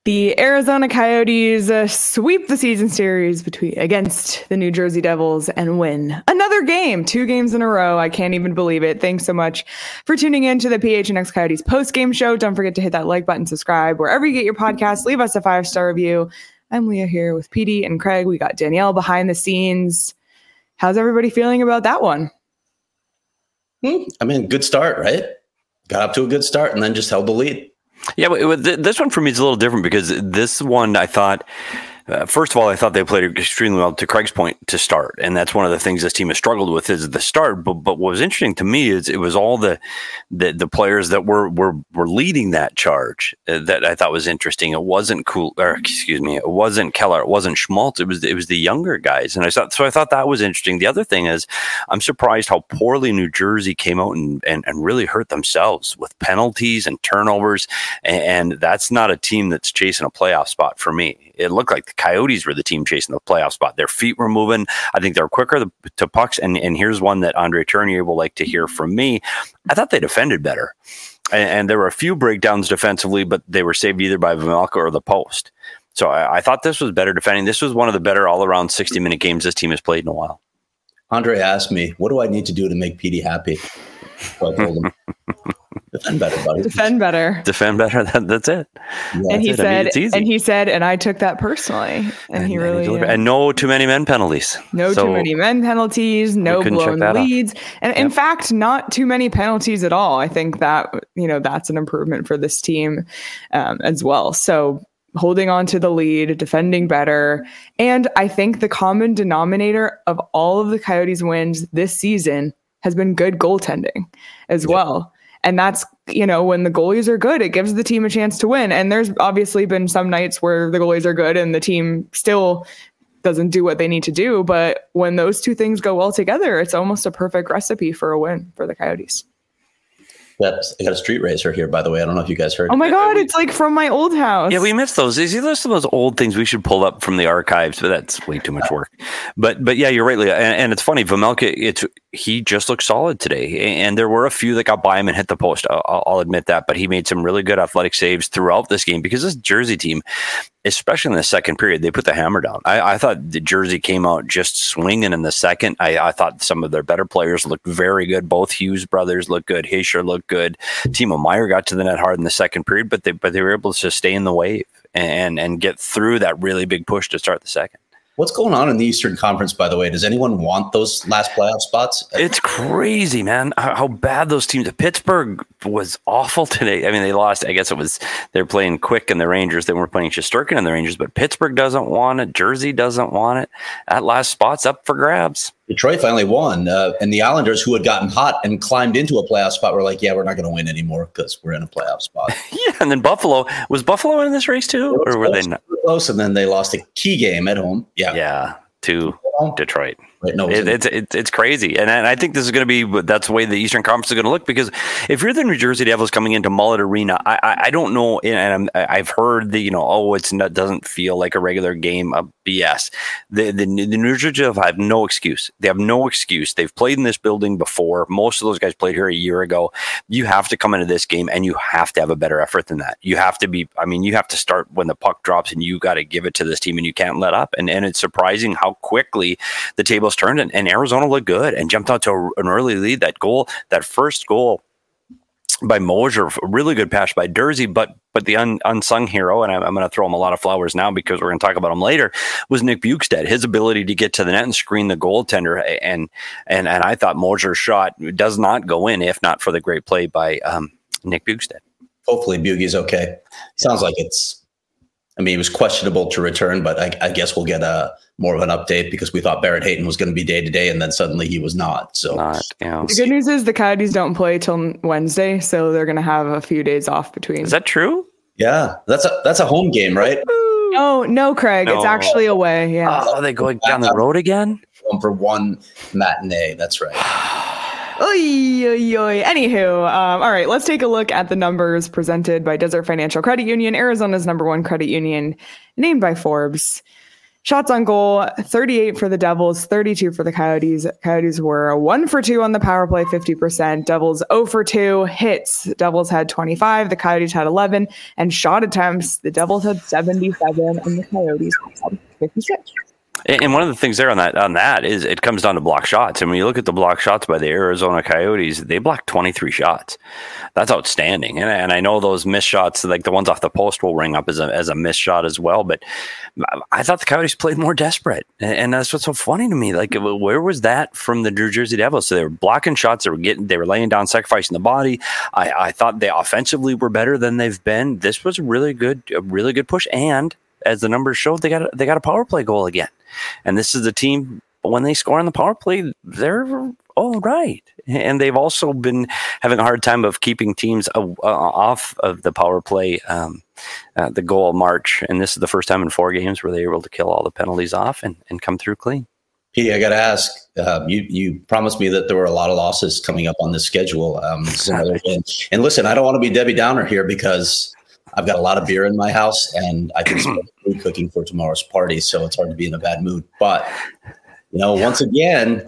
The Arizona Coyotes sweep the season series against the New Jersey Devils and win another game, 2 games in a row. I can't even believe it. Thanks so much for tuning in to the PHNX Coyotes post-game show. Don't forget to hit that like button, subscribe wherever you get your podcasts. Leave us a 5-star review. I'm Leah here with PD and Craig. We got Danielle behind the scenes. How's everybody feeling about that one? I mean, good start, right? Got up to a good start and then just held the lead. Yeah, this one for me is a little different because this one I thought, first of all, I thought they played extremely well, to Craig's point, to start. And that's one of the things this team has struggled with is the start. But what was interesting to me is it was all the players that were leading that charge that I thought was interesting. It wasn't it wasn't Keller, it wasn't Schmaltz. It was the younger guys. And I thought that was interesting. The other thing is I'm surprised how poorly New Jersey came out and really hurt themselves with penalties and turnovers. And that's not a team that's chasing a playoff spot for me. It looked like the Coyotes were the team chasing the playoff spot. Their feet were moving. I think they're quicker to pucks. And here's one that Andre Tournier will like to hear from me. I thought they defended better. And there were a few breakdowns defensively, but they were saved either by Vejmelka or the post. So I thought this was better defending. This was one of the better all-around 60-minute games this team has played in a while. Andre asked me, what do I need to do to make PD happy? So I told him, defend better, buddy. Defend better. Defend better. That's it. Yeah, and he said, and I took that personally. And he really and no too many men penalties. Too many men penalties. No blown leads, and in fact, not too many penalties at all. I think that that's an improvement for this team as well. So holding on to the lead, defending better, and I think the common denominator of all of the Coyotes wins this season has been good goaltending as well. And that's, when the goalies are good, it gives the team a chance to win. And there's obviously been some nights where the goalies are good and the team still doesn't do what they need to do. But when those two things go well together, it's almost a perfect recipe for a win for the Coyotes. I got a street racer here, by the way. I don't know if you guys heard. Oh my God, it's like from my old house. Yeah, we missed those. These are some of those old things we should pull up from the archives, but that's way too much work. But yeah, you're right, Leah. And it's funny, Vejmelka, he just looked solid today. And there were a few that got by him and hit the post. I'll admit that. But he made some really good athletic saves throughout this game because this Jersey team, especially in the second period, they put the hammer down. I thought the Jersey came out just swinging in the second. I thought some of their better players looked very good. Both Hughes brothers looked good. Hischier looked good. Timo Meier got to the net hard in the second period, but they were able to sustain the wave and get through that really big push to start the second. What's going on in the Eastern Conference, by the way? Does anyone want those last playoff spots? It's crazy, man, how bad those teams. Pittsburgh was awful today. I mean, they lost. I guess they're playing Quick and the Rangers. They weren't playing Shesterkin and the Rangers, but Pittsburgh doesn't want it. Jersey doesn't want it. That last spot's up for grabs. Detroit finally won. And the Islanders, who had gotten hot and climbed into a playoff spot, were like, yeah, we're not going to win anymore because we're in a playoff spot. Yeah, and then Buffalo. Was Buffalo in this race too? Or were they not? Close, and then they lost a key game at home. Yeah, to Detroit. Right, no, it's crazy, and I think this is going to be that's the way the Eastern Conference is going to look, because if you're the New Jersey Devils coming into Mullet Arena, I don't know, and I've heard that it doesn't feel like a regular game of BS. The New Jersey Devils have no excuse. They have no excuse. They've played in this building before. Most of those guys played here a year ago. You have to come into this game and you have to have a better effort than that. You have to be. I mean, you have to start when the puck drops, and you got to give it to this team, and you can't let up. And it's surprising how quickly the tables turned, and Arizona looked good and jumped out to an early lead. That first goal by Moser, a really good pass by Durzi, but the unsung hero, and I'm going to throw him a lot of flowers now because we're going to talk about him later, was Nick Bjugstad. His ability to get to the net and screen the goaltender, and I thought Moser's shot does not go in if not for the great play by Nick Bjugstad. Hopefully Bugie's okay. Sounds like it was questionable to return, but I guess we'll get more of an update because we thought Barrett Hayton was going to be day-to-day, and then suddenly he was not. So The good news is the Coyotes don't play till Wednesday, so they're going to have a few days off between. Is that true? Yeah, that's a home game, right? No, Craig. No. It's actually away. Yeah. Oh, are they going down the road again? For one matinee. That's right. Oy, oy, oy. Anywho, all right, let's take a look at the numbers presented by Desert Financial Credit Union, Arizona's #1 credit union, named by Forbes. Shots on goal, 38 for the Devils, 32 for the Coyotes. Coyotes were 1 for 2 on the power play, 50%. Devils 0 for 2. Hits, Devils had 25, the Coyotes had 11. And shot attempts, the Devils had 77 and the Coyotes had 56. And one of the things there on that is it comes down to block shots. And when you look at the block shots by the Arizona Coyotes, they blocked 23 shots. That's outstanding. And I know those missed shots, like the ones off the post, will ring up as a missed shot as well. But I thought the Coyotes played more desperate. And that's what's so funny to me. Like, where was that from the New Jersey Devils? So they were blocking shots. They were laying down, sacrificing the body. I thought they offensively were better than they've been. This was a really good push. And as the numbers showed, they got a power play goal again. And this is the team, when they score on the power play, they're all right. And they've also been having a hard time of keeping teams off of the power play, the goal march. And this is the first time in 4 games where they were able to kill all the penalties off and come through clean. Petey, I got to ask, you promised me that there were a lot of losses coming up on this schedule. And listen, I don't want to be Debbie Downer here because I've got a lot of beer in my house and I can smell food cooking for tomorrow's party. So it's hard to be in a bad mood. But, once again,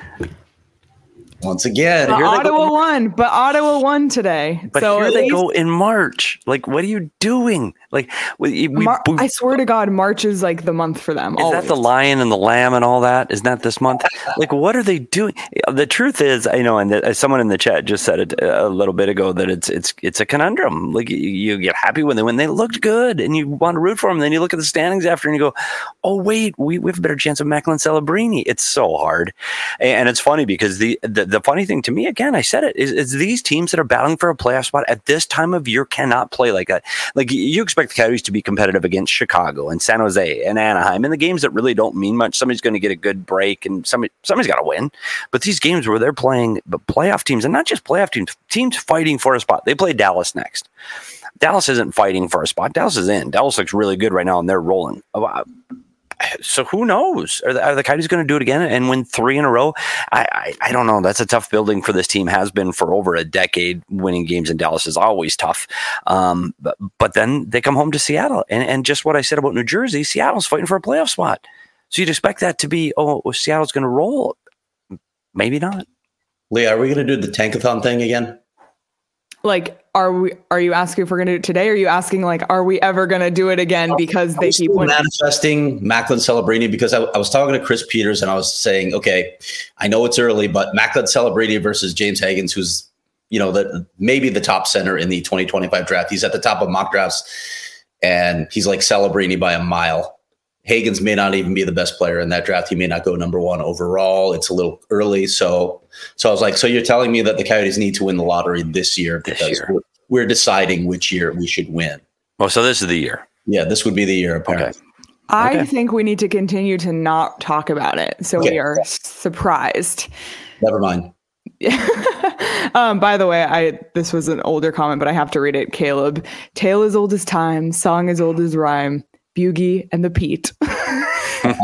Ottawa won, but Ottawa won today. But so here they go in March. Like, what are you doing? Like, I swear to God, March is like the month for them. Is that the Lion and the Lamb and all that? Isn't that this month? Like, what are they doing? The truth is, and someone in the chat just said it a little bit ago, that it's a conundrum. Like, you get happy when they looked good and you want to root for them. Then you look at the standings after and you go, oh wait, we have a better chance of Macklin Celebrini. It's so hard, and it's funny because the funny thing to me, again, I said it, is these teams that are battling for a playoff spot at this time of year cannot play like that. Like, you expect the Coyotes to be competitive against Chicago and San Jose and Anaheim, and the games that really don't mean much. Somebody's going to get a good break, and somebody's got to win. But these games where they're playing the playoff teams, and not just playoff teams fighting for a spot. They play Dallas next. Dallas isn't fighting for a spot. Dallas is in. Dallas looks really good right now, and they're rolling. So who knows? Are the Coyotes going to do it again and win 3 in a row? I don't know. That's a tough building for this team. Has been for over a decade. Winning games in Dallas is always tough. But then they come home to Seattle. And just what I said about New Jersey, Seattle's fighting for a playoff spot. So you'd expect that to be, Seattle's going to roll. Maybe not. Leah, are we going to do the tankathon thing again? Like, are you asking if we're going to do it today? Or are you asking, like, are we ever going to do it again because they keep winning? Manifesting Macklin Celebrini, because I was talking to Chris Peters and I was saying, okay, I know it's early, but Macklin Celebrini versus James Higgins, who's, maybe the top center in the 2025 draft. He's at the top of mock drafts and he's like Celebrini by a mile. Higgins may not even be the best player in that draft. He may not go number 1 overall. It's a little early. So I was like, so you're telling me that the Coyotes need to win the lottery this year because we're deciding which year we should win. Oh, so this is the year. Yeah, this would be the year, apparently. Okay. I think we need to continue to not talk about it. So we are surprised. Never mind. By the way, this was an older comment, but I have to read it. Caleb, tale as old as time, song as old as rhyme. Bugie and the Pete. I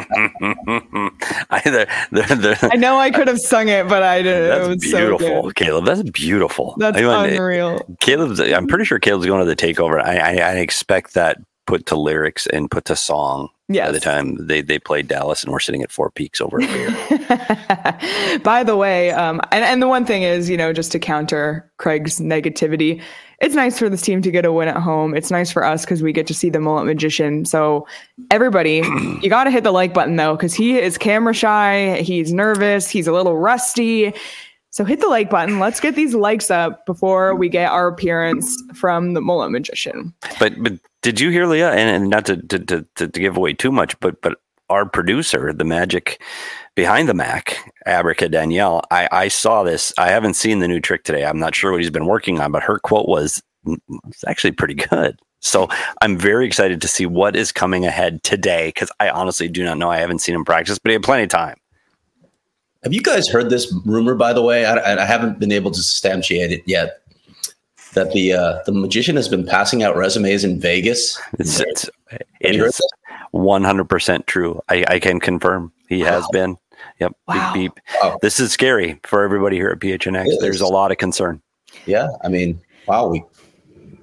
know I could have sung it, but I didn't. That's it was beautiful, so Caleb. That's beautiful. That's unreal. I'm pretty sure Caleb's going to the takeover. I expect that put to lyrics and put to song. Yes. By the time they played Dallas and we're sitting at Four Peaks over here. By the way, and the one thing is, just to counter Craig's negativity, it's nice for this team to get a win at home. It's nice for us because we get to see the Mullet Magician. So everybody, you got to hit the like button, though, because he is camera shy. He's nervous. He's a little rusty. So hit the like button. Let's get these likes up before we get our appearance from the Mullet Magician. But did you hear, Leah? And not to give away too much, but our producer, the magic behind the Mac, Abrica Danielle, I saw this. I haven't seen the new trick today. I'm not sure what he's been working on, but her quote was actually pretty good. So I'm very excited to see what is coming ahead today, because I honestly do not know. I haven't seen him practice, but he had plenty of time. Have you guys heard this rumor, by the way? I haven't been able to substantiate it yet, that the magician has been passing out resumes in Vegas. It is 100% true. I can confirm he has been. Yep. Wow. Beep, beep. Wow. This is scary for everybody here at PHNX. There's a lot of concern. Yeah. I mean, wow.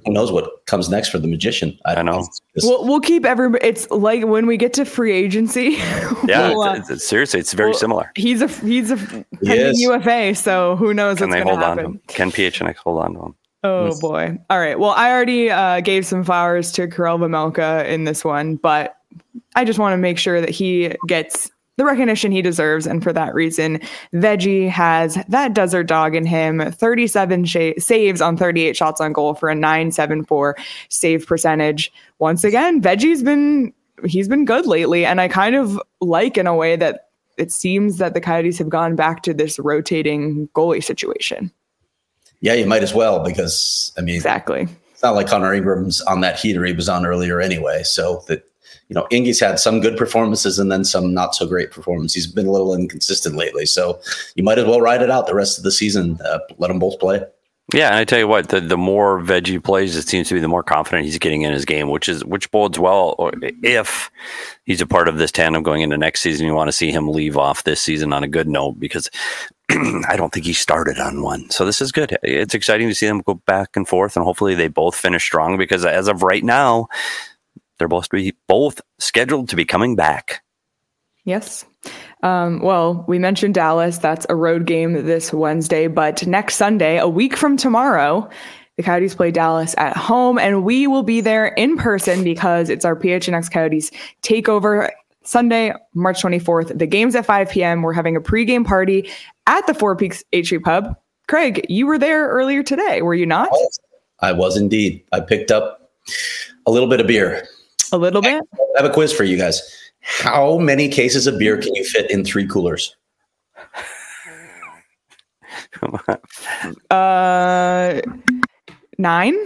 who knows what comes nenext for the Magician? I know. We'll keep everybody. It's like when we get to free agency. Yeah, seriously, it's very similar. He's a pending UFA, so who knows what's going to happen. Can PHNX hold on to him? Oh boy! All right. Well, I already gave some flowers to Karel Vejmelka in this one, but I just want to make sure that he gets the recognition he deserves. And for that reason, Veggie has that desert dog in him, 37 saves on 38 shots on goal for a .974 save percentage. Once again, Veggie's been good lately. And I kind of like in a way that it seems that the Coyotes have gone back to this rotating goalie situation. Yeah, you might as well, because exactly. It's not like Connor Ingram's on that heater he was on earlier anyway. So that, Ingy's had some good performances and then some not so great performances. He's been a little inconsistent lately. So you might as well ride it out the rest of the season. Let them both play. Yeah, and I tell you what, the more Veggie plays, it seems to be the more confident he's getting in his game, which bodes well if he's a part of this tandem going into next season. You want to see him leave off this season on a good note, because I don't think he started on one. So this is good. It's exciting to see them go back and forth, and hopefully they both finish strong, because as of right now, they're both scheduled to be coming back. Yes. Well, we mentioned Dallas. That's a road game this Wednesday, but next Sunday, a week from tomorrow, the Coyotes play Dallas at home, and we will be there in person because it's our PHNX Coyotes takeover Sunday, March 24th. The game's at 5 p.m. We're having a pregame party at the Four Peaks HE Pub. Craig, you were there earlier today, were you not? I was indeed. I picked up a little bit of beer. A little bit? I have a quiz for you guys. How many cases of beer can you fit in 3 coolers? 9?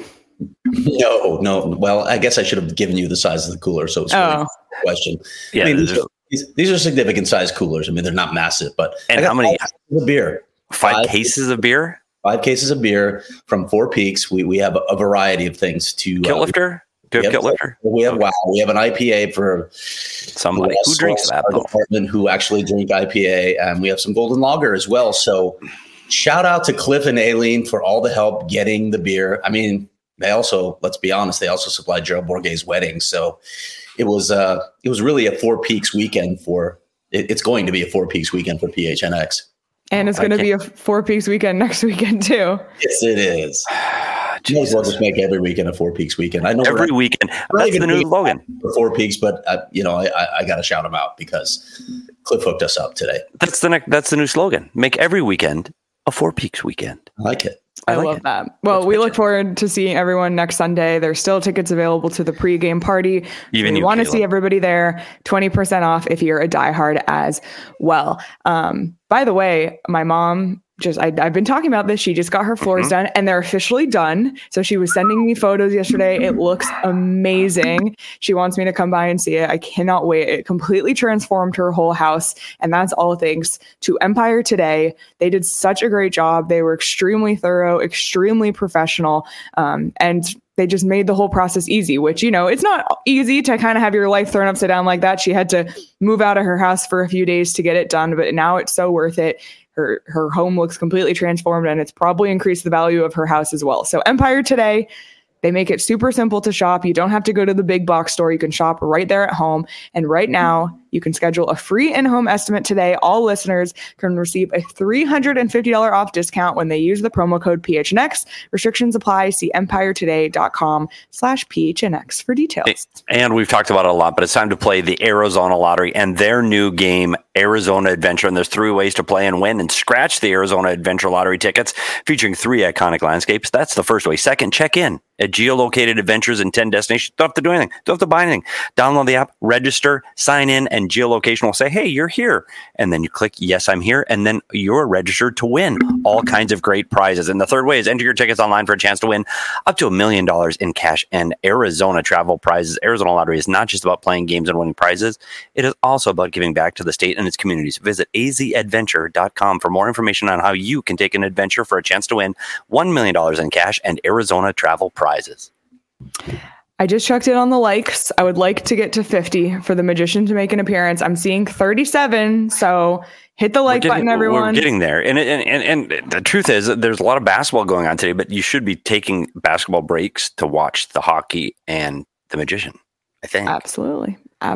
No. Well, I guess I should have given you the size of the cooler, so it's really a question. Yeah, these are significant size coolers. They're not massive, but and how many beer? 5 cases of beer? 5 cases of beer from Four Peaks. We have a variety of things to Kilt Lifter. Do you have Kilt Lifter? We have We have an IPA for somebody who drinks that. Our department who actually drink IPA, and we have some Golden Lager as well. So, shout out to Cliff and Aileen for all the help getting the beer. They also, let's be honest, they also supplied Gerald Bourguet's wedding. So, it was really a Four Peaks weekend it's going to be a Four Peaks weekend for PHNX. And it's going to be a Four Peaks weekend next weekend too. Yes, it is. We'll just make every weekend a Four Peaks weekend. I know every weekend. That's the new slogan for Four Peaks, but I got to shout them out because Cliff hooked us up today. That's the new slogan. Make every weekend a Four Peaks weekend. I like it. I love that. Well, we look forward to seeing everyone next Sunday. There's still tickets available to the pregame party. Even we want to see everybody there. 20% off if you're a diehard as well. By the way, my mom I've been talking about this. She just got her floors done and they're officially done. So she was sending me photos yesterday. It looks amazing. She wants me to come by and see it. I cannot wait. It completely transformed her whole house. And that's all thanks to Empire Today. They did such a great job. They were extremely thorough, extremely professional. And they just made the whole process easy, which, it's not easy to kind of have your life thrown upside down like that. She had to move out of her house for a few days to get it done, but now it's so worth it. Her home looks completely transformed, and it's probably increased the value of her house as well. So Empire Today, they make it super simple to shop. You don't have to go to the big box store. You can shop right there at home. And right now, you can schedule a free in-home estimate today. All listeners can receive a $350 off discount when they use the promo code PHNX. Restrictions apply. See empiretoday.com/PHNX for details. And we've talked about it a lot, but it's time to play the Arizona Lottery and their new game, Arizona Adventure. And there's 3 ways to play and win and scratch the Arizona Adventure Lottery tickets featuring 3 iconic landscapes. That's the first way. Second, check in at geolocated adventures in 10 destinations. Don't have to do anything. Don't have to buy anything. Download the app, register, sign in, and geolocation will say, hey, you're here. And then you click, yes, I'm here. And then you're registered to win all kinds of great prizes. And the third way is enter your tickets online for a chance to win up to $1 million in cash and Arizona travel prizes. Arizona Lottery is not just about playing games and winning prizes. It is also about giving back to the state and its communities. Visit azadventure.com for more information on how you can take an adventure for a chance to win $1 million in cash and Arizona travel prizes. I just checked in on the likes. I would like to get to 50 for the Magician to make an appearance. I'm seeing 37, so hit the like button, everyone. We're getting there. And the truth is that there's a lot of basketball going on today, but you should be taking basketball breaks to watch the hockey and the Magician, I think. Absolutely.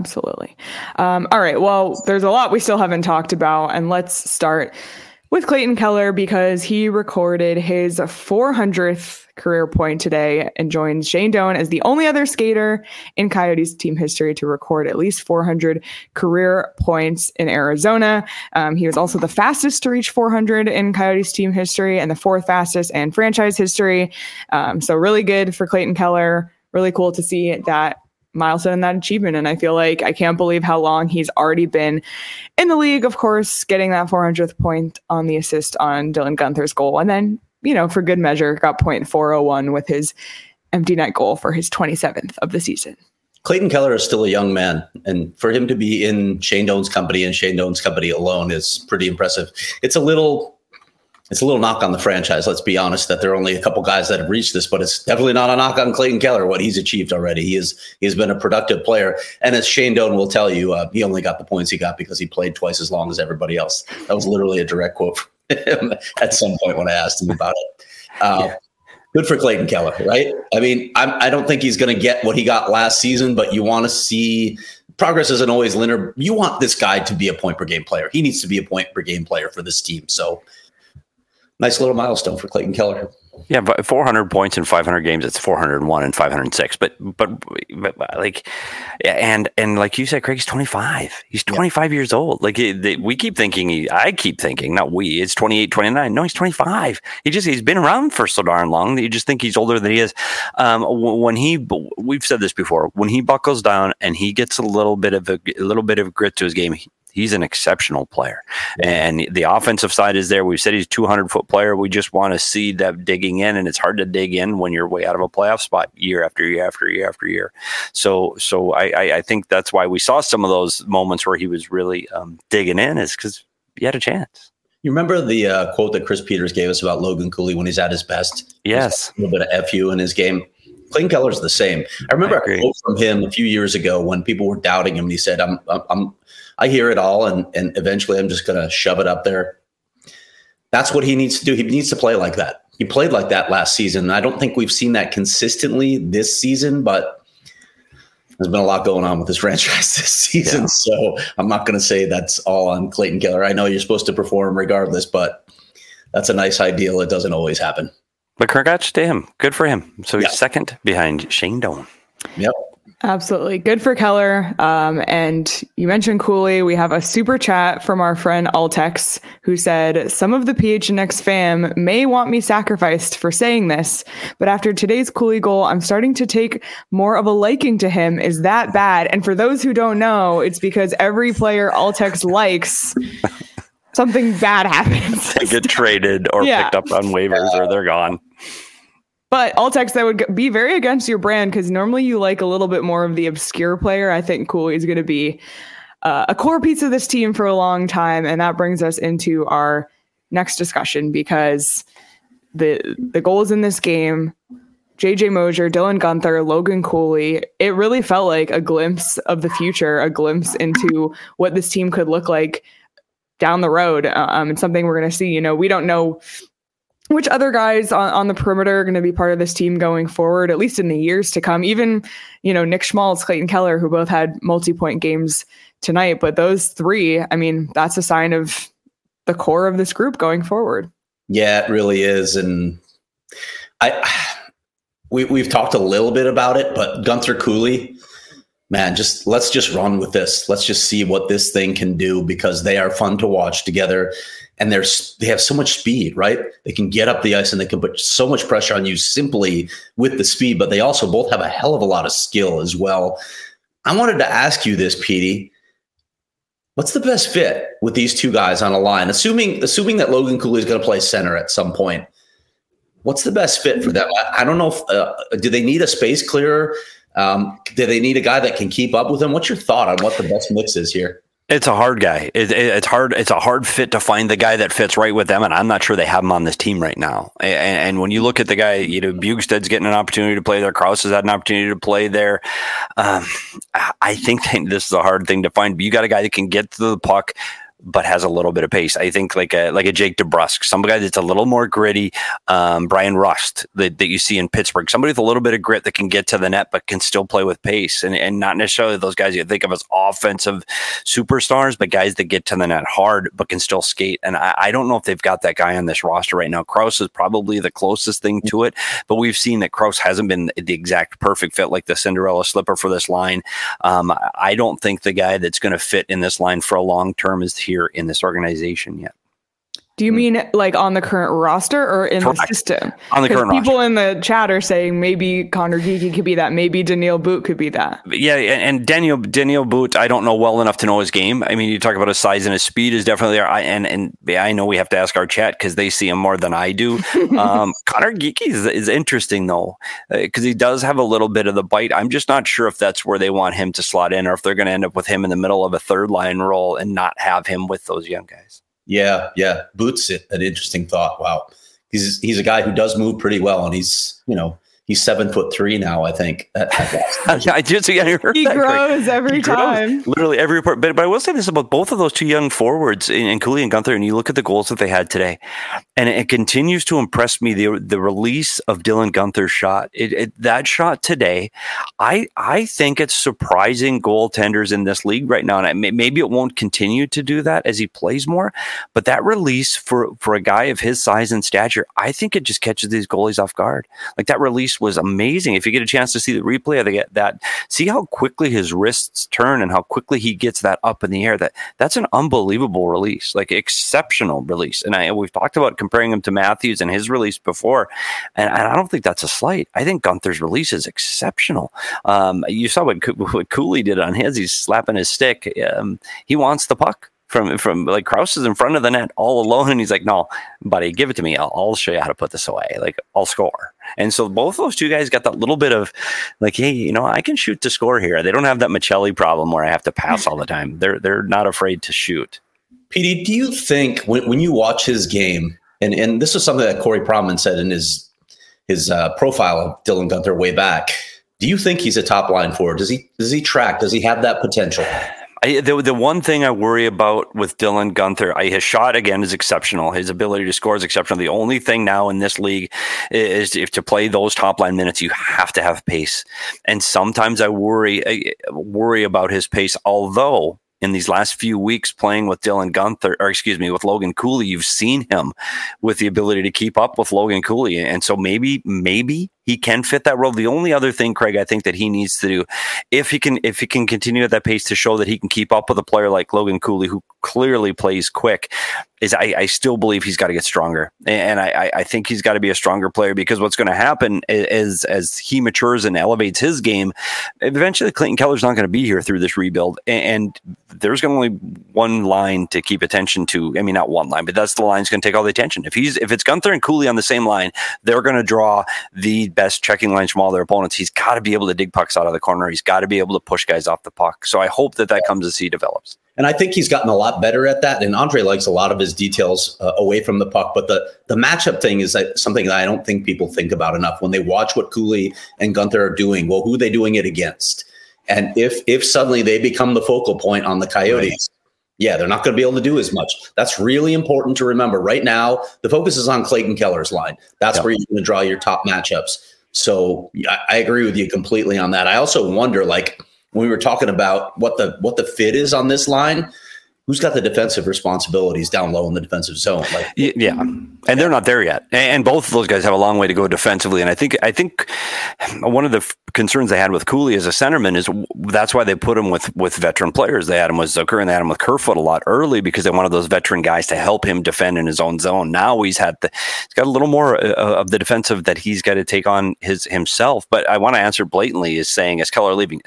All right. Well, there's a lot we still haven't talked about, and let's start with Clayton Keller because he recorded his 400th career point today and joined Shane Doan as the only other skater in Coyotes team history to record at least 400 career points in Arizona. He was also the fastest to reach 400 in Coyotes team history and the fourth fastest in franchise history. So really good for Clayton Keller. Really cool to see that milestone and that achievement. And I feel like I can't believe how long he's already been in the league. Of course, getting that 400th point on the assist on Dylan Guenther's goal. And then, for good measure, got .401 with his empty net goal for his 27th of the season. Clayton Keller is still a young man, and for him to be in Shane Doan's company and Shane Doan's company alone is pretty impressive. It's a little knock on the franchise, let's be honest, that there are only a couple guys that have reached this, but it's definitely not a knock on Clayton Keller, what he's achieved already. He's been a productive player. And as Shane Doan will tell you, he only got the points he got because he played twice as long as everybody else. That was literally a direct quote from him at some point when I asked him about it. Good for Clayton Keller, right? I mean, I don't think he's going to get what he got last season, but you want to see progress isn't always linear. You want this guy to be a point per game player. He needs to be a point per game player for this team. So nice little milestone for Clayton Keller. Yeah, but 400 points in 500 games, it's 401 and 506. But like, and like you said, Craig's 25. He's 25 years old. Like we keep thinking, I keep thinking, not we, it's 28, 29. No, he's 25. He's been around for so darn long that you just think he's older than he is. We've said this before, when he buckles down and he gets a little bit of grit to his game, he's an exceptional player. And the offensive side is there. We've said he's a 200-foot player. We just want to see that digging in, and it's hard to dig in when you're way out of a playoff spot year after year after year after year. So I think that's why we saw some of those moments where he was really digging in, is because he had a chance. You remember the quote that Chris Peters gave us about Logan Cooley when he's at his best? Yes. A little bit of FU in his game. Clayton Keller's the same. I remember a quote from him a few years ago when people were doubting him, and he said, I hear it all, and eventually I'm just going to shove it up there. That's what he needs to do. He needs to play like that. He played like that last season. I don't think we've seen that consistently this season, but there's been a lot going on with this franchise this season. Yeah. So I'm not going to say that's all on Clayton Keller. I know you're supposed to perform regardless, but that's a nice ideal. It doesn't always happen. But congrats to him. Good for him. So he's second behind Shane Doan. Yep. Absolutely. Good for Keller. And you mentioned Cooley. We have a super chat from our friend Altex, who said, some of the PHNX fam may want me sacrificed for saying this, but after today's Cooley goal, I'm starting to take more of a liking to him. Is that bad? And for those who don't know, it's because every player Altex likes, something bad happens. They get traded or picked up on waivers or they're gone. But Altex, that would be very against your brand, because normally you like a little bit more of the obscure player. I think Cooley is going to be a core piece of this team for a long time. And that brings us into our next discussion, because the goals in this game, JJ Mosier, Dylan Guenther, Logan Cooley, it really felt like a glimpse of the future, a glimpse into what this team could look like down the road. It's something we're going to see. We don't know which other guys on the perimeter are going to be part of this team going forward, at least in the years to come. Even, Nick Schmaltz, Clayton Keller, who both had multi-point games tonight. But those three, that's a sign of the core of this group going forward. Yeah, it really is. And we've talked a little bit about it, but Guenther, Cooley, man, let's just run with this. Let's just see what this thing can do, because they are fun to watch together. And they have so much speed, right? They can get up the ice and they can put so much pressure on you simply with the speed, but they also both have a hell of a lot of skill as well. I wanted to ask you this, Petey. What's the best fit with these two guys on a line? Assuming that Logan Cooley is going to play center at some point, what's the best fit for them? I don't know if do they need a space clearer? Do they need a guy that can keep up with them? What's your thought on what the best mix is here? It's a hard guy. It's hard. It's a hard fit to find the guy that fits right with them, and I'm not sure they have him on this team right now. And when you look at the guy, Bjugstad's getting an opportunity to play there. Krause has had an opportunity to play there. I think this is a hard thing to find. But you got a guy that can get to the puck, but has a little bit of pace. I think like a Jake DeBrusk, some guy that's a little more gritty. Brian Rust that you see in Pittsburgh, somebody with a little bit of grit that can get to the net, but can still play with pace, and not necessarily those guys you think of as offensive superstars, but guys that get to the net hard, but can still skate. And I don't know if they've got that guy on this roster right now. Krause is probably the closest thing to it, but we've seen that Krause hasn't been the exact perfect fit, like the Cinderella slipper for this line. I don't think the guy that's going to fit in this line for a long term is here in this organization yet. Do you mean like on the current roster or in the system? On the current roster. People in the chat are saying maybe Connor Geekie could be that. Maybe Daniil But could be that. Yeah, and Daniil But, I don't know well enough to know his game. I mean, you talk about his size and his speed is definitely there. And I know we have to ask our chat because they see him more than I do. Connor Geekie is interesting, though, because he does have a little bit of the bite. I'm just not sure if that's where they want him to slot in or if they're going to end up with him in the middle of a third line role and not have him with those young guys. Yeah. Boots, an interesting thought. Wow. He's a guy who does move pretty well, and he's 7'3" now, I think. I just he grows every time. Literally every report. But I will say this about both of those two young forwards in Cooley and Guenther, and you look at the goals that they had today, and it continues to impress me, the release of Dylan Guenther's shot. That shot today, I think it's surprising goaltenders in this league right now, and maybe it won't continue to do that as he plays more, but that release for a guy of his size and stature, I think it just catches these goalies off guard. Like that release was amazing. If you get a chance to see the replay of that, see how quickly his wrists turn and how quickly he gets that up in the air. That's an unbelievable release, like exceptional release. And we've talked about comparing him to Matthews and his release before, and I don't think that's a slight. I think Guenther's release is exceptional. You saw what Cooley did on his. He's slapping his stick. He wants the puck. From like Krause is in front of the net all alone, and he's like, "No, buddy, give it to me. I'll show you how to put this away. Like I'll score." And so both those two guys got that little bit of like, "Hey, I can shoot to score here." They don't have that Michelli problem where I have to pass all the time. They're not afraid to shoot. Petey, do you think when you watch his game, and this is something that Corey Pronman said in his profile of Dylan Guenther way back, do you think he's a top line forward? Does he track? Does he have that potential? The one thing I worry about with Dylan Guenther, his shot again is exceptional. His ability to score is exceptional. The only thing now in this league is if to play those top line minutes, you have to have pace. And sometimes I worry about his pace, although in these last few weeks playing with Dylan Guenther, with Logan Cooley, you've seen him with the ability to keep up with Logan Cooley. And so maybe he can fit that role. The only other thing, Craig, I think that he needs to do, if he can continue at that pace to show that he can keep up with a player like Logan Cooley, who clearly plays quick, is I still believe he's got to get stronger. And I think he's got to be a stronger player, because what's going to happen is as he matures and elevates his game, eventually Clayton Keller's not going to be here through this rebuild. And there's going to only one line to keep attention to. I mean, not one line, but that's the line that's going to take all the attention. If it's Guenther and Cooley on the same line, they're going to draw the best checking lines from all their opponents. He's got to be able to dig pucks out of the corner. He's got to be able to push guys off the puck. So I hope that comes as he develops. And I think he's gotten a lot better at that. And Andre likes a lot of his details away from the puck. But the matchup thing is something that I don't think people think about enough when they watch what Cooley and Guenther are doing. Well, who are they doing it against? And if suddenly they become the focal point on the Coyotes, right, yeah, they're not going to be able to do as much. That's really important to remember. Right now, the focus is on Clayton Keller's line. That's where you're going to draw your top matchups. So I agree with you completely on that. I also wonder, like, when we were talking about what the fit is on this line, who's got the defensive responsibilities down low in the defensive zone? Yeah, and they're not there yet. And both of those guys have a long way to go defensively. And I think one of the concerns they had with Cooley as a centerman is that's why they put him with veteran players. They had him with Zucker and they had him with Kerfoot a lot early, because they wanted those veteran guys to help him defend in his own zone. Now he's got a little more of the defensive that he's got to take on himself. But I want to answer blatantly is saying, is Keller leaving?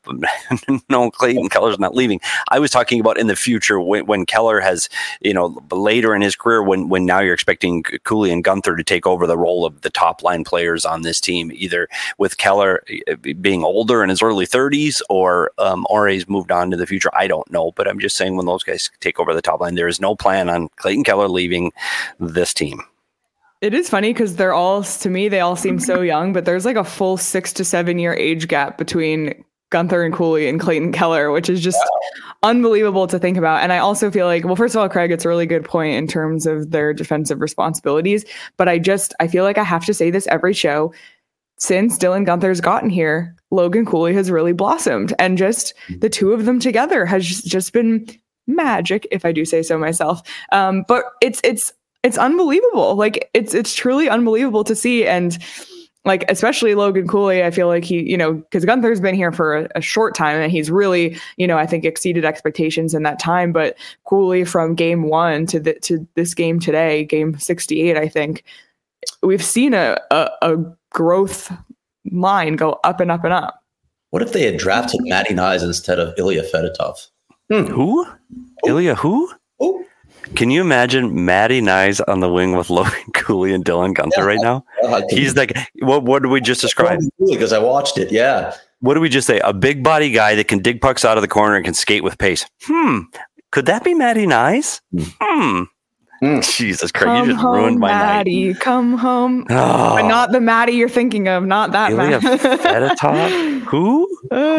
no, Clayton Keller's not leaving. I was talking about in the future when Keller has, later in his career, when now you're expecting Cooley and Guenther to take over the role of the top line players on this team, either with Keller being older in his early 30s or he's moved on to the future. I don't know, but I'm just saying when those guys take over the top line, there is no plan on Clayton Keller leaving this team. It is funny because they all seem so young, but there's like a full 6 to 7 year age gap between Guenther and Cooley and Clayton Keller, which is just unbelievable to think about. And I also feel like, well, first of all, Craig, it's a really good point in terms of their defensive responsibilities. But I feel like I have to say this every show. Since Dylan Guenther's gotten here, Logan Cooley has really blossomed. And just the two of them together has just been magic, if I do say so myself. But it's unbelievable. Like it's truly unbelievable to see. And like, especially Logan Cooley, I feel like he, because Guenther's been here for a short time and he's really, I think exceeded expectations in that time. But Cooley from game 1 to this game today, game 68, I think we've seen a growth line go up and up and up. What if they had drafted Matty Knies instead of Ilya Fedotov? Who? Ilya who? Who? Can you imagine Matty Knies on the wing with Logan Cooley and Dylan Guenther right now? He's like, what did we just describe? Because I watched it, yeah. What did we just say? A big body guy that can dig pucks out of the corner and can skate with pace. Could that be Matty Knies? Jesus Christ, you just ruined my Maddie, night. Come home. But not the Maddie you're thinking of, not that Ilya Fedotov? Who?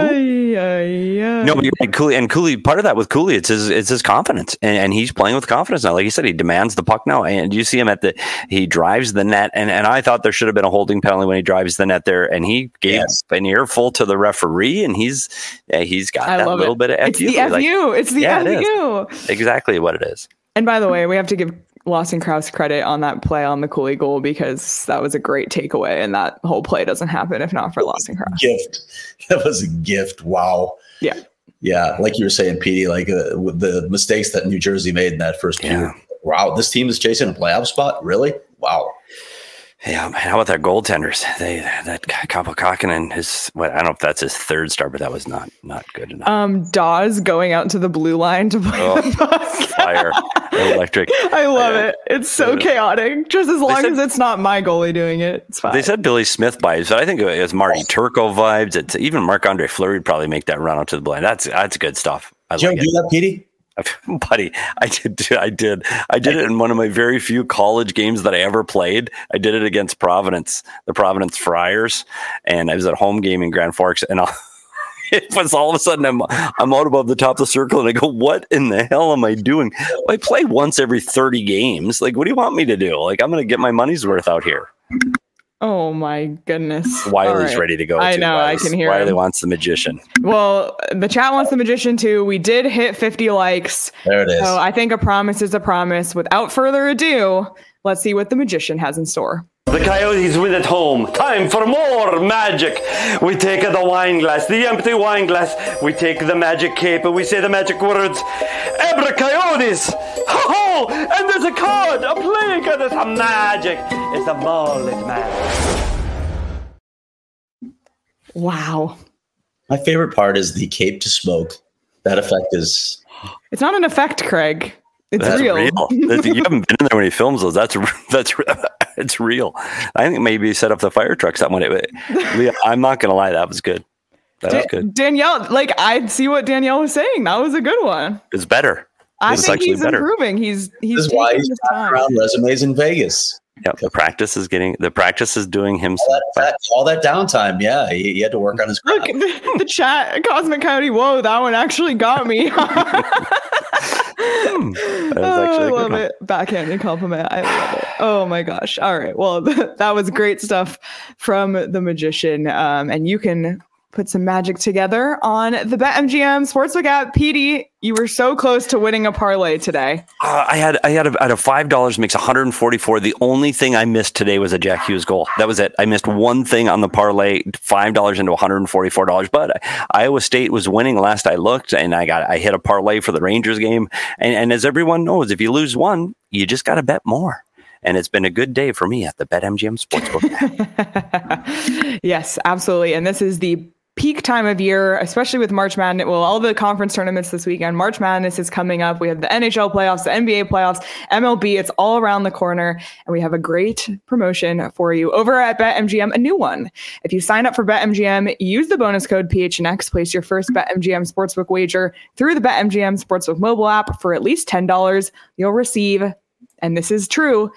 No, but you're right, Cooley, part of that with Cooley, it's his confidence. And he's playing with confidence now. Like you said, he demands the puck now. And you see him he drives the net. And I thought there should have been a holding penalty when he drives the net there. And he gave an earful to the referee. And he's got that little bit of FU. It's the FU. It is. Exactly what it is. And by the way, we have to give Lawson Crouse credit on that play on the Cooley goal because that was a great takeaway, and that whole play doesn't happen if not for Lawson Crouse. That was a gift. Wow. Yeah. Yeah, like you were saying, Petey, like the mistakes that New Jersey made in that first period. Wow, this team is chasing a playoff spot? Really? Wow. Yeah, how about their goaltenders? That Kapokakinen and I don't know if that's his third start, but that was not good enough. Dawes going out to the blue line to play the puck. Fire, electric. I love it. It's so chaotic. Just as long as it's not my goalie doing it, it's fine. They said Billy Smith vibes, but I think it was Marty Turco vibes. It's even Marc-Andre Fleury would probably make that run out to the blue line. That's good stuff. Did you ever do that, Petey? Buddy, I did it in one of my very few college games that I ever played. I did it against Providence, the Providence Friars, and I was at a home game in Grand Forks, and it was all of a sudden I'm out above the top of the circle, and I go, what in the hell am I doing? I play once every 30 games. Like, what do you want me to do? Like, I'm going to get my money's worth out here. Oh my goodness. Wiley's ready to go. I know, I can hear Wiley him. wants the magician. Well, the chat wants the magician too. We did hit 50 likes. There it is. So I think a promise is a promise. Without further ado, let's see what the magician has in store. The Coyotes win at home. Time for more magic. We take the wine glass, the empty wine glass. We take the magic cape and we say the magic words. Abra Coyotes! Ho ho! And there's a card, a playing card. It's a magic. It's a mullet magic. Wow. My favorite part is the cape to smoke. That effect is... It's not an effect, Craig. That's real. You haven't been in there when he films those. That's it's real. I think maybe he set up the fire trucks that one. Leah, I'm not going to lie. That was good. That was good. Danielle, like I see what Danielle was saying. That was a good one. It's better. I think he's improving. He's this is why he's around resumes in Vegas. Yeah, the practice is doing him all that downtime. Yeah, he had to work on his craft. Look, the chat, Cosmic Coyote. Whoa, that one actually got me. I love it. Backhanded compliment. I love it. Oh my gosh. All right. Well, that was great stuff from the magician. And you can put some magic together on the BetMGM Sportsbook app. Petey, you were so close to winning a parlay today. I had a $5 makes 144. The only thing I missed today was a Jack Hughes goal. That was it. I missed one thing on the parlay, $5 into $144. But Iowa State was winning last I looked, and I hit a parlay for the Rangers game. And as everyone knows, if you lose one, you just got to bet more. And it's been a good day for me at the BetMGM Sportsbook. Yes, absolutely. And this is the peak time of year, especially with March Madness. Well, all the conference tournaments this weekend. March Madness is coming up. We have the NHL playoffs, the NBA playoffs, MLB. It's all around the corner. And we have a great promotion for you over at BetMGM, a new one. If you sign up for BetMGM, use the bonus code PHNX, place your first BetMGM Sportsbook wager through the BetMGM Sportsbook mobile app for at least $10. You'll receive, and this is true,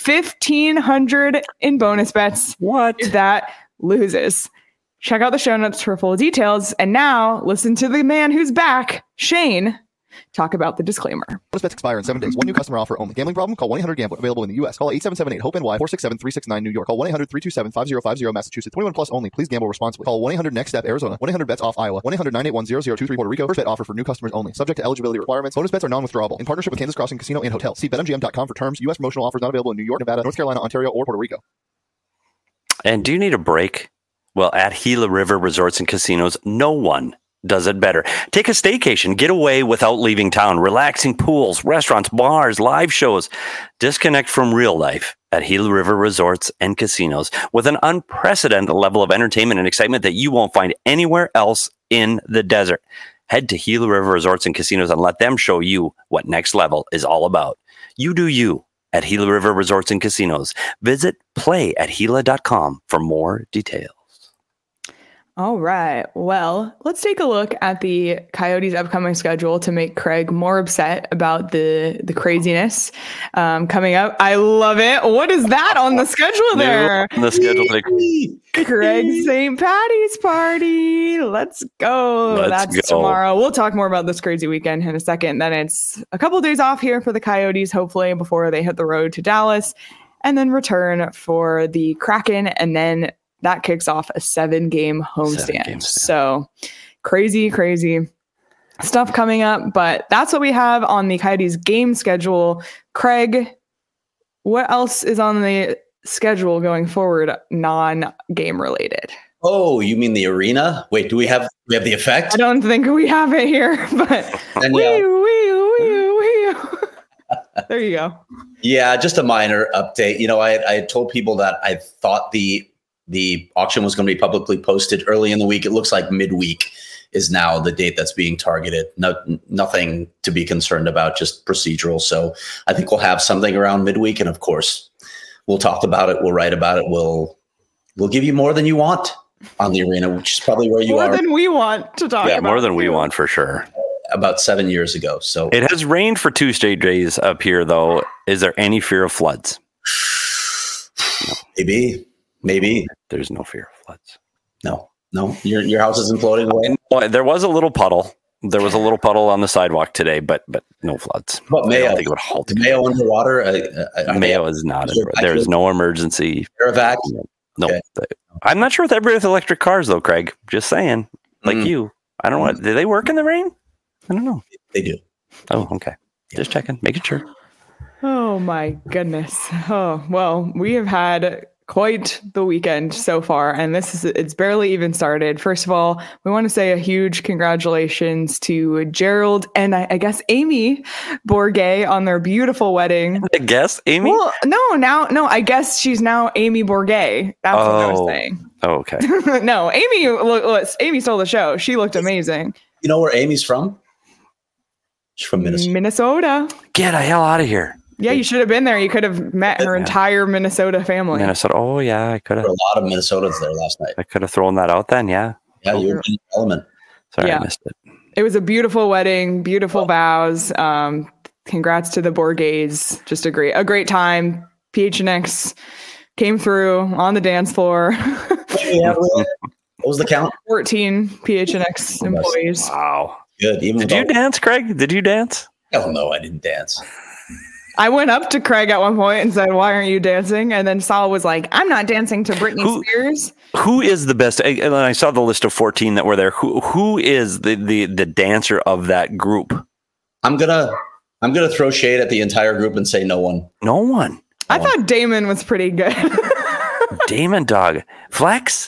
$1,500 in bonus bets. What? If that loses. Check out the show notes for full details. And now listen to the man who's back, Shane, talk about the disclaimer. Bonus bets expire in 7 days. One new customer offer only. Gambling problem? Call 1-800-GAMBLER. Available in the U.S. Call 877-8-HOPE-NY 467-369 New York. Call 1-800-327-5050 Massachusetts. 21 plus only. Please gamble responsibly. Call 1-800-NEXT-STEP Arizona. 1-800-BETS-OFF Iowa. 1-800-981-0023 Puerto Rico. First bet offer for new customers only. Subject to eligibility requirements. Bonus bets are non-withdrawable. In partnership with Kansas Crossing Casino and Hotel. See BetMGM.com for terms. U.S. promotional offers not available in New York, Nevada, North Carolina, Ontario, or Puerto Rico. And do you need a break? Well, at Gila River Resorts and Casinos, no one does it better. Take a staycation, get away without leaving town, relaxing pools, restaurants, bars, live shows. Disconnect from real life at Gila River Resorts and Casinos with an unprecedented level of entertainment and excitement that you won't find anywhere else in the desert. Head to Gila River Resorts and Casinos and let them show you what next level is all about. You do you at Gila River Resorts and Casinos. Visit playatgila.com for more details. All right. Well, let's take a look at the Coyotes' upcoming schedule to make Craig more upset about the craziness coming up. I love it. What is that on the schedule there? The schedule, Craig's St. Patty's party. Let's go. That's tomorrow. We'll talk more about this crazy weekend in a second. Then it's a couple of days off here for the Coyotes, hopefully, before they hit the road to Dallas, and then return for the Kraken, and then that kicks off a 7-game homestand. So crazy stuff coming up. But that's what we have on the Coyotes game schedule. Craig, what else is on the schedule going forward, non-game related? Oh, you mean the arena? Wait, do we have the effect? I don't think we have it here, but there you go. Yeah, just a minor update. You know, I told people that I thought the auction was going to be publicly posted early in the week. It looks like midweek is now the date that's being targeted. Nothing to be concerned about, just procedural. So I think we'll have something around midweek. And of course, we'll talk about it. We'll write about it. We'll give you more than you want on the arena, which is probably where you are. More than we want to talk about. Yeah, more than we want for sure. About 7 years ago. So it has rained for 2 straight days up here, though. Is there any fear of floods? No. Maybe. There's no fear of floods. No. Your house isn't floating away. Well, there was a little puddle. There was a little puddle on the sidewalk today, but no floods. But Mayo, I don't think it would halt. Mayo underwater. Mayo is not. There is no emergency. Air No. Okay. I'm not sure with everybody with electric cars, though, Craig. Just saying. Like you. I don't know. Do they work in the rain? I don't know. They do. Oh, okay. Just checking. Making sure. Oh, my goodness. Oh, well, we have had quite the weekend so far, and it's barely even started. First of all, we want to say a huge congratulations to Gerald and I guess Amy Bourget on their beautiful wedding. I guess Amy? Well, no, I guess she's now Amy Bourget. That's what I was saying. Oh, okay. No, Amy stole the show. She looked amazing. You know where Amy's from? She's from Minnesota. Get the hell out of here. Yeah, you should have been there. You could have met her entire Minnesota family. Minnesota. Oh, yeah, I could have. There were a lot of Minnesotans there last night. I could have thrown that out then, yeah. Yeah, you were in the element. Sorry, I missed it. It was a beautiful wedding, beautiful vows. Congrats to the Bourgets. Just a great time. PHNX came through on the dance floor. What was the count? 14 PHNX employees. Wow. Good. Did you dance, Craig? Did you dance? Hell no, I didn't dance. I went up to Craig at one point and said, "Why aren't you dancing?" And then Saul was like, "I'm not dancing to Britney Spears." Who is the best? And I saw the list of 14 that were there. Who is the dancer of that group? I'm gonna throw shade at the entire group and say no one. No one. I thought Damon was pretty good. Damon, dog. Flex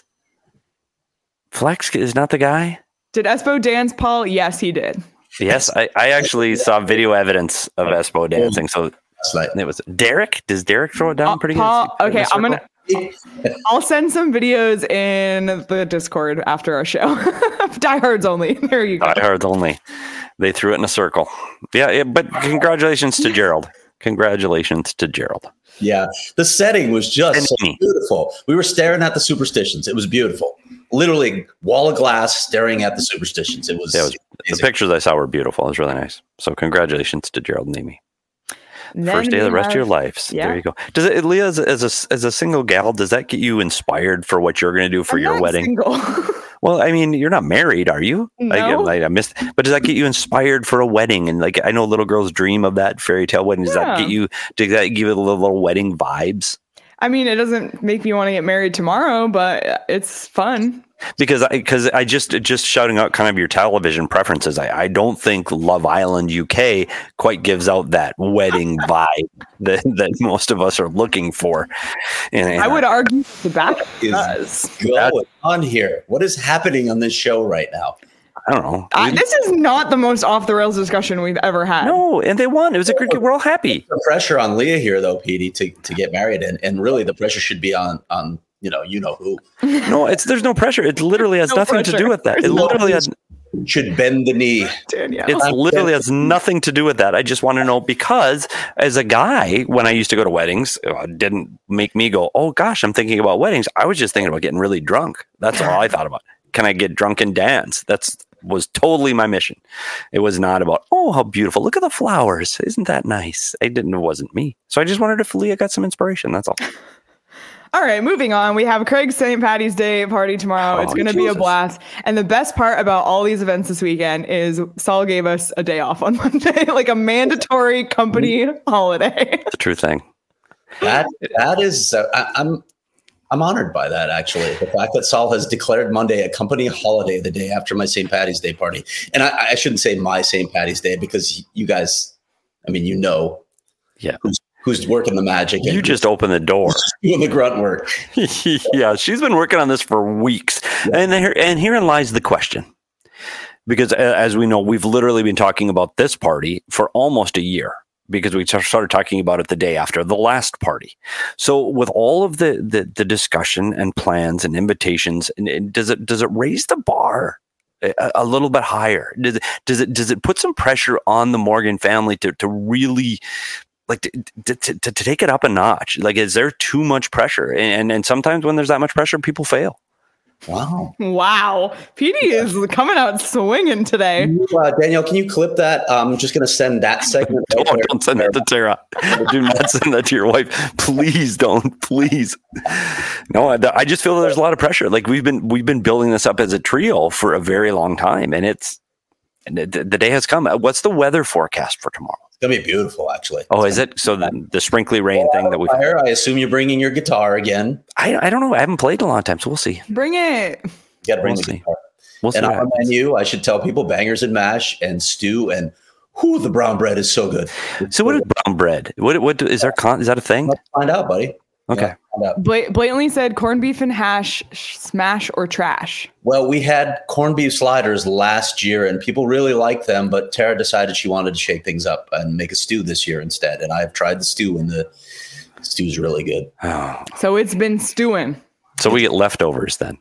is not the guy. Did Espo dance, Paul? Yes, he did. Yes, I actually saw video evidence of Espo dancing. So it was Derek. Does Derek throw it down pretty Paul, good? Okay, I'll send some videos in the Discord after our show. Diehards only. There you go. Diehards only. They threw it in a circle. Yeah, but congratulations to Gerald. Congratulations to Gerald. Yeah, the setting was just so beautiful. We were staring at the superstitions. It was beautiful. Literally, wall of glass staring at the superstitions. It was the pictures I saw were beautiful. It was really nice. So congratulations to Gerald and Amy. First day of the rest of your lives. Yeah. There you go. Does it, Leah, as a single gal, does that get you inspired for what you're going to do for your wedding? Single. Well, I mean, you're not married, are you? No. I missed. But does that get you inspired for a wedding? And like, I know little girls dream of that fairy tale wedding. Does that give you a little wedding vibes? I mean, it doesn't make me want to get married tomorrow, but it's fun. Because I just shouting out kind of your television preferences. I don't think Love Island UK quite gives out that wedding vibe that most of us are looking for. And I would argue the back does. Going on here? What is happening on this show right now? I don't know. This is not the most off the rails discussion we've ever had. No, and they won. It was a great. We're all happy. The pressure on Leah here, though, Petey, to get married, and really the pressure should be on you know who. No, there's no pressure. It literally has nothing to do with that. It literally should bend the knee. Danielle. It literally has nothing to do with that. I just want to know, because as a guy, when I used to go to weddings, it didn't make me go, oh gosh, I'm thinking about weddings. I was just thinking about getting really drunk. That's all I thought about. Can I get drunk and dance? Was totally my mission. It was not about, oh, how beautiful. Look at the flowers. Isn't that nice? It wasn't me. So I just wondered if Leah got some inspiration. That's all. All right, moving on. We have Craig's St. Patty's Day party tomorrow. It's going to be a blast. And the best part about all these events this weekend is Saul gave us a day off on Monday, like a mandatory company holiday. It's a true thing. That is, I'm honored by that, actually. The fact that Saul has declared Monday a company holiday the day after my St. Patty's Day party. And I shouldn't say my St. Patty's Day, because you guys, I mean, who's working the magic. You just opened the door. Doing the grunt work. Yeah, she's been working on this for weeks. Yeah. And herein lies the question. Because as we know, we've literally been talking about this party for almost a year, because we started talking about it the day after the last party. So with all of the discussion and plans and invitations, does it raise the bar a little bit higher? Does it put some pressure on the Morgan family to really like to take it up a notch? Like, is there too much pressure? And sometimes when there's that much pressure, people fail. Wow. Petey is coming out swinging today. Danielle, can you clip that? I'm just going to send that segment. Don't send that to Tara. Do not send that to your wife. Please don't. Please. No, I just feel that there's a lot of pressure. Like we've been building this up as a trio for a very long time, and the day has come. What's the weather forecast for tomorrow? It's going to be beautiful, actually. Oh, is it? So the sprinkly rain thing that we... I assume you're bringing your guitar again. I don't know. I haven't played in a long time, so we'll see. Bring it. You got to bring the guitar. We'll see. And on the menu, I should tell people, bangers and mash and stew, and the brown bread is so good. So what is brown bread? What is there? Is that a thing? Let's find out, buddy. Okay. Blatantly said corned beef and hash, smash or trash. Well, we had corned beef sliders last year and people really liked them, but Tara decided she wanted to shake things up and make a stew this year instead. And I've tried the stew, and the stew's really good. Oh. So it's been stewing. So we get leftovers then.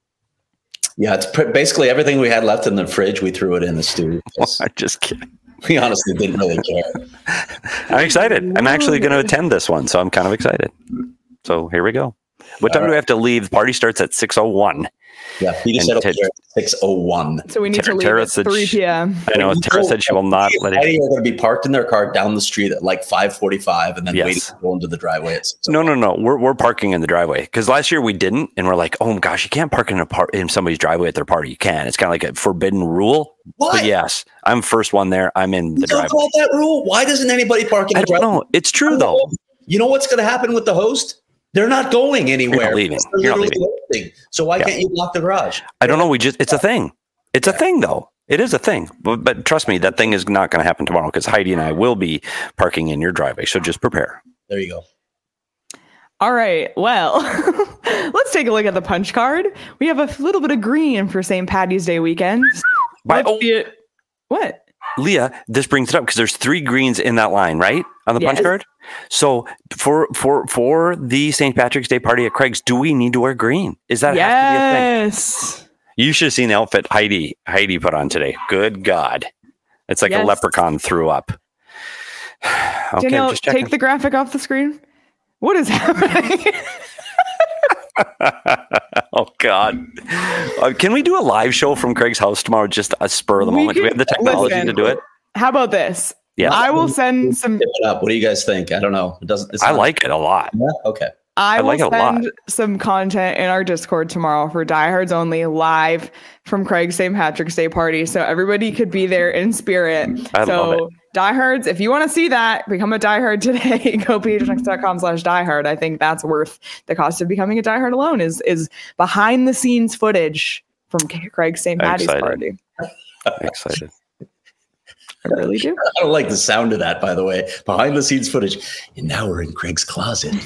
Yeah, it's basically everything we had left in the fridge. We threw it in the stew. I'm just kidding. We honestly didn't really care. I'm excited. I'm actually going to attend this one, so I'm kind of excited. So here we go. What time do we have to leave? The party starts at 6:01. Yeah, Peter said over here at 6:01. So we need to leave at 3 p.m. I know. Tara said she will not let it. They're going to be parked in their car down the street at like 5:45 and then waiting to go into the driveway. No. We're parking in the driveway, because last year we didn't, and we're like, oh gosh, you can't park in somebody's driveway at their party. You can. It's kind of like a forbidden rule. What? But yes, I'm first one there. I'm in the driveway. About that rule? Why doesn't anybody park in the driveway? I don't know. It's true though. You know what's going to happen with the host? They're not going anywhere. You're not leaving. You're not leaving. So why can't you block the garage? I don't know. It's a thing. It's a thing, though. It is a thing. But trust me, that thing is not going to happen tomorrow, because Heidi and I will be parking in your driveway. So just prepare. There you go. All right. Well, let's take a look at the punch card. We have a little bit of green for St. Patty's Day weekend. What? Leah, this brings it up because there's 3 greens in that line, right? On the punch card. So for the St. Patrick's Day party at Craig's, do we need to wear green? Is that have to be a thing? Yes. You should have seen the outfit Heidi put on today. Good God. It's like a leprechaun threw up. Okay, Danielle, just checking. take the graphic off the screen. What is happening? Oh, God. Can we do a live show from Craig's house tomorrow? Just a spur of the moment. Do we have the technology to do it? How about this? Yeah. I will send some. What do you guys think? I don't know. I like it a lot. Yeah? Okay. I will send some content in our Discord tomorrow for Diehards Only live from Craig's St. Patrick's Day party. So everybody could be there in spirit. Love it. Diehards, if you want to see that, become a diehard today. Go phnx.com/diehard. I think that's worth the cost of becoming a diehard alone is behind the scenes footage from Craig's St. Patty's party. Excited. I really do. I don't like the sound of that, by the way. Behind the scenes footage. And now we're in Craig's closet.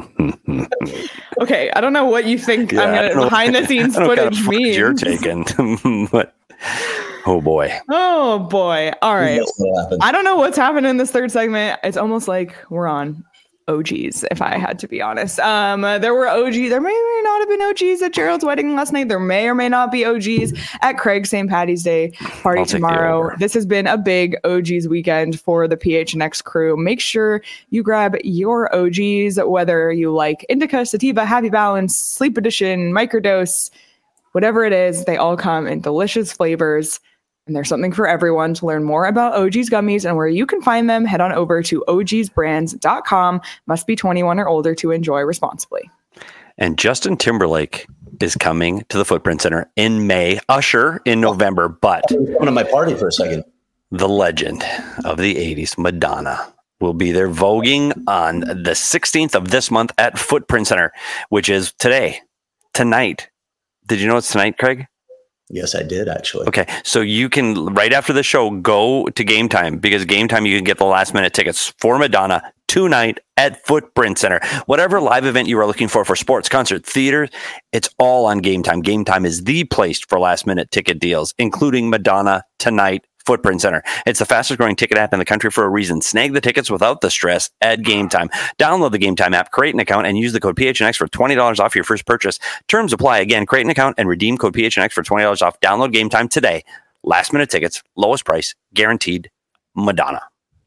Okay, I don't know what you think behind the scenes footage means. You're taking. But, oh boy. Oh boy. All right. I don't know what's happening in this third segment. It's almost like we're on OGs, if I had to be honest. There were OGs. There may or may not have been OGs at Gerald's wedding last night. There may or may not be OGs at Craig's St. Patty's Day party tomorrow. This has been a big OGs weekend for the PHNX crew. Make sure you grab your OGs, whether you like Indica, Sativa, Happy Balance, Sleep Edition, Microdose, whatever it is. They all come in delicious flavors. And there's something for everyone. To learn more about OG's gummies and where you can find them, head on over to ogsbrands.com. Must be 21 or older to enjoy responsibly. And Justin Timberlake is coming to the Footprint Center in May, Usher in November, but coming to my party for a second. The legend of the 80s, Madonna, will be there voguing on the 16th of this month at Footprint Center, which is tonight. Did you know it's tonight, Craig? Yes, I did, actually. Okay, so you can, right after the show, go to Game Time, because Game Time, you can get the last-minute tickets for Madonna tonight at Footprint Center. Whatever live event you are looking for sports, concert, theater, it's all on Game Time. Game Time is the place for last-minute ticket deals, including Madonna tonight, Footprint Center. It's the fastest growing ticket app in the country for a reason. Snag the tickets without the stress at Game Time. Download the Game Time app, create an account, and use the code PHNX for $20 off your first purchase. Terms apply. Again, create an account and redeem code PHNX for $20 off. Download Game Time today. Last minute tickets, lowest price, guaranteed. Madonna.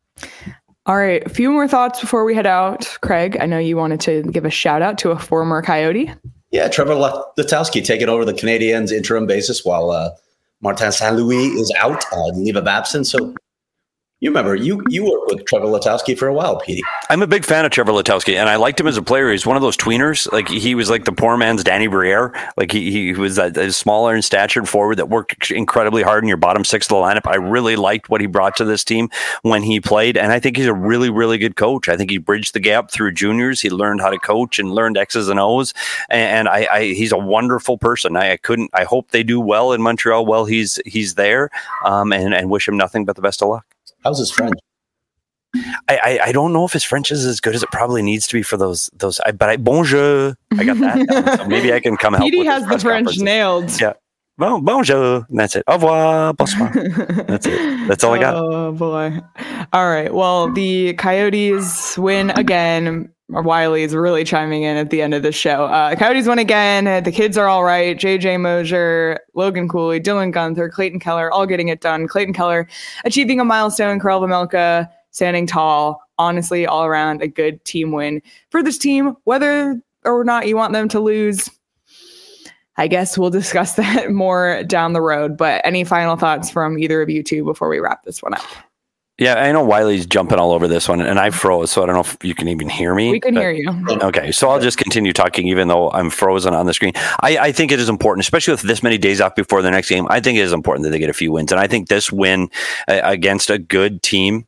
All right, a few more thoughts before we head out. Craig, I know you wanted to give a shout out to a former Coyote. Yeah, Trevor Letowski taking over the Canadiens interim basis while Martin St. Louis is out on leave of absence. So you remember, you worked with Trevor Letowski for a while, Petey. I'm a big fan of Trevor Letowski, and I liked him as a player. He's one of those tweeners. Like, he was like the poor man's Danny Briere. Like, he was a smaller in stature forward that worked incredibly hard in your bottom six of the lineup. I really liked what he brought to this team when he played, and I think he's a really, really good coach. I think he bridged the gap through juniors. He learned how to coach and learned X's and O's, and he's a wonderful person. I hope they do well in Montreal while he's there, and wish him nothing but the best of luck. How's his French? I don't know if his French is as good as it probably needs to be for those. Bonjour. I got that down, so maybe I can come help. Petey has the French nailed. Yeah. Bonjour. And that's it. Au revoir. Bonsoir. That's it. That's all I got. Oh boy. All right. Well, the Coyotes win again. Wiley is really chiming in at the end of the show. Coyotes win again. The kids are all right. JJ Mosier, Logan Cooley, Dylan Gunther, Clayton Keller, all getting it done. Clayton Keller achieving a milestone. Karel Vejmelka standing tall. Honestly, all around a good team win for this team. Whether or not you want them to lose, I guess we'll discuss that more down the road. But any final thoughts from either of you two before we wrap this one up? Yeah, I know Wiley's jumping all over this one, and I froze, so I don't know if you can even hear me. We can hear you. Okay, so I'll just continue talking even though I'm frozen on the screen. I think it is important, especially with this many days off before the next game, I think it is important that they get a few wins. And I think this win against a good team...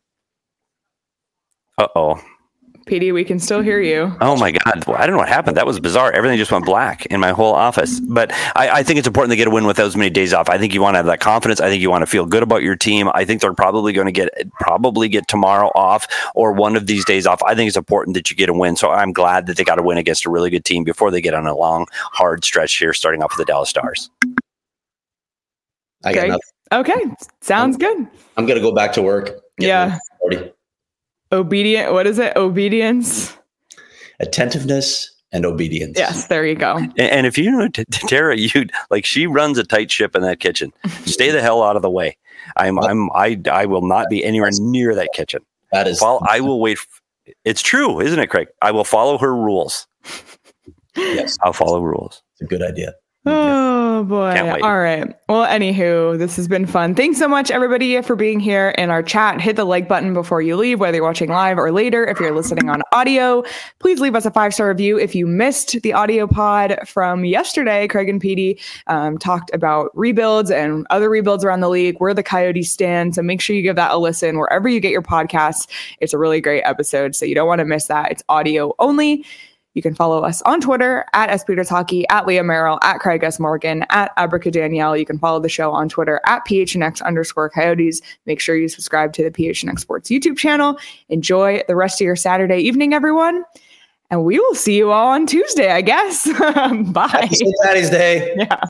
Uh-oh. PD, we can still hear you. Oh my God. Well, I don't know what happened. That was bizarre. Everything just went black in my whole office. But I think it's important to get a win with those many days off. I think you want to have that confidence. I think you want to feel good about your team. I think they're probably going to get tomorrow off or one of these days off. I think it's important that you get a win. So I'm glad that they got a win against a really good team before they get on a long, hard stretch here, starting off with the Dallas Stars. I got nothing. Okay. Sounds good. I'm going to go back to work. Yeah. Obedient. What is it? Obedience. Attentiveness and obedience. Yes, there you go. And if you know Tara, she runs a tight ship in that kitchen. Stay the hell out of the way. I will not be anywhere near that kitchen. That is. Well, I will wait. It's true, isn't it, Craig? I will follow her rules. Yes, I'll follow rules. It's a good idea. Oh boy. All right. Well, anywho, this has been fun. Thanks so much, everybody, for being here in our chat. Hit the like button before you leave, whether you're watching live or later. If you're listening on audio, please leave us a 5-star review. If you missed the audio pod from yesterday, Craig and Petey talked about rebuilds and other rebuilds around the league, where the Coyotes stand. So make sure you give that a listen wherever you get your podcasts. It's a really great episode, so you don't want to miss that. It's audio only. You can follow us on Twitter at SPetersHockey, at Leah Merrill, at Craig S. Morgan, at Abracadanielle. You can follow the show on Twitter at PHNX_Coyotes. Make sure you subscribe to the PHNX Sports YouTube channel. Enjoy the rest of your Saturday evening, everyone. And we will see you all on Tuesday, I guess. Bye. Happy St. Patty's Day. Yeah.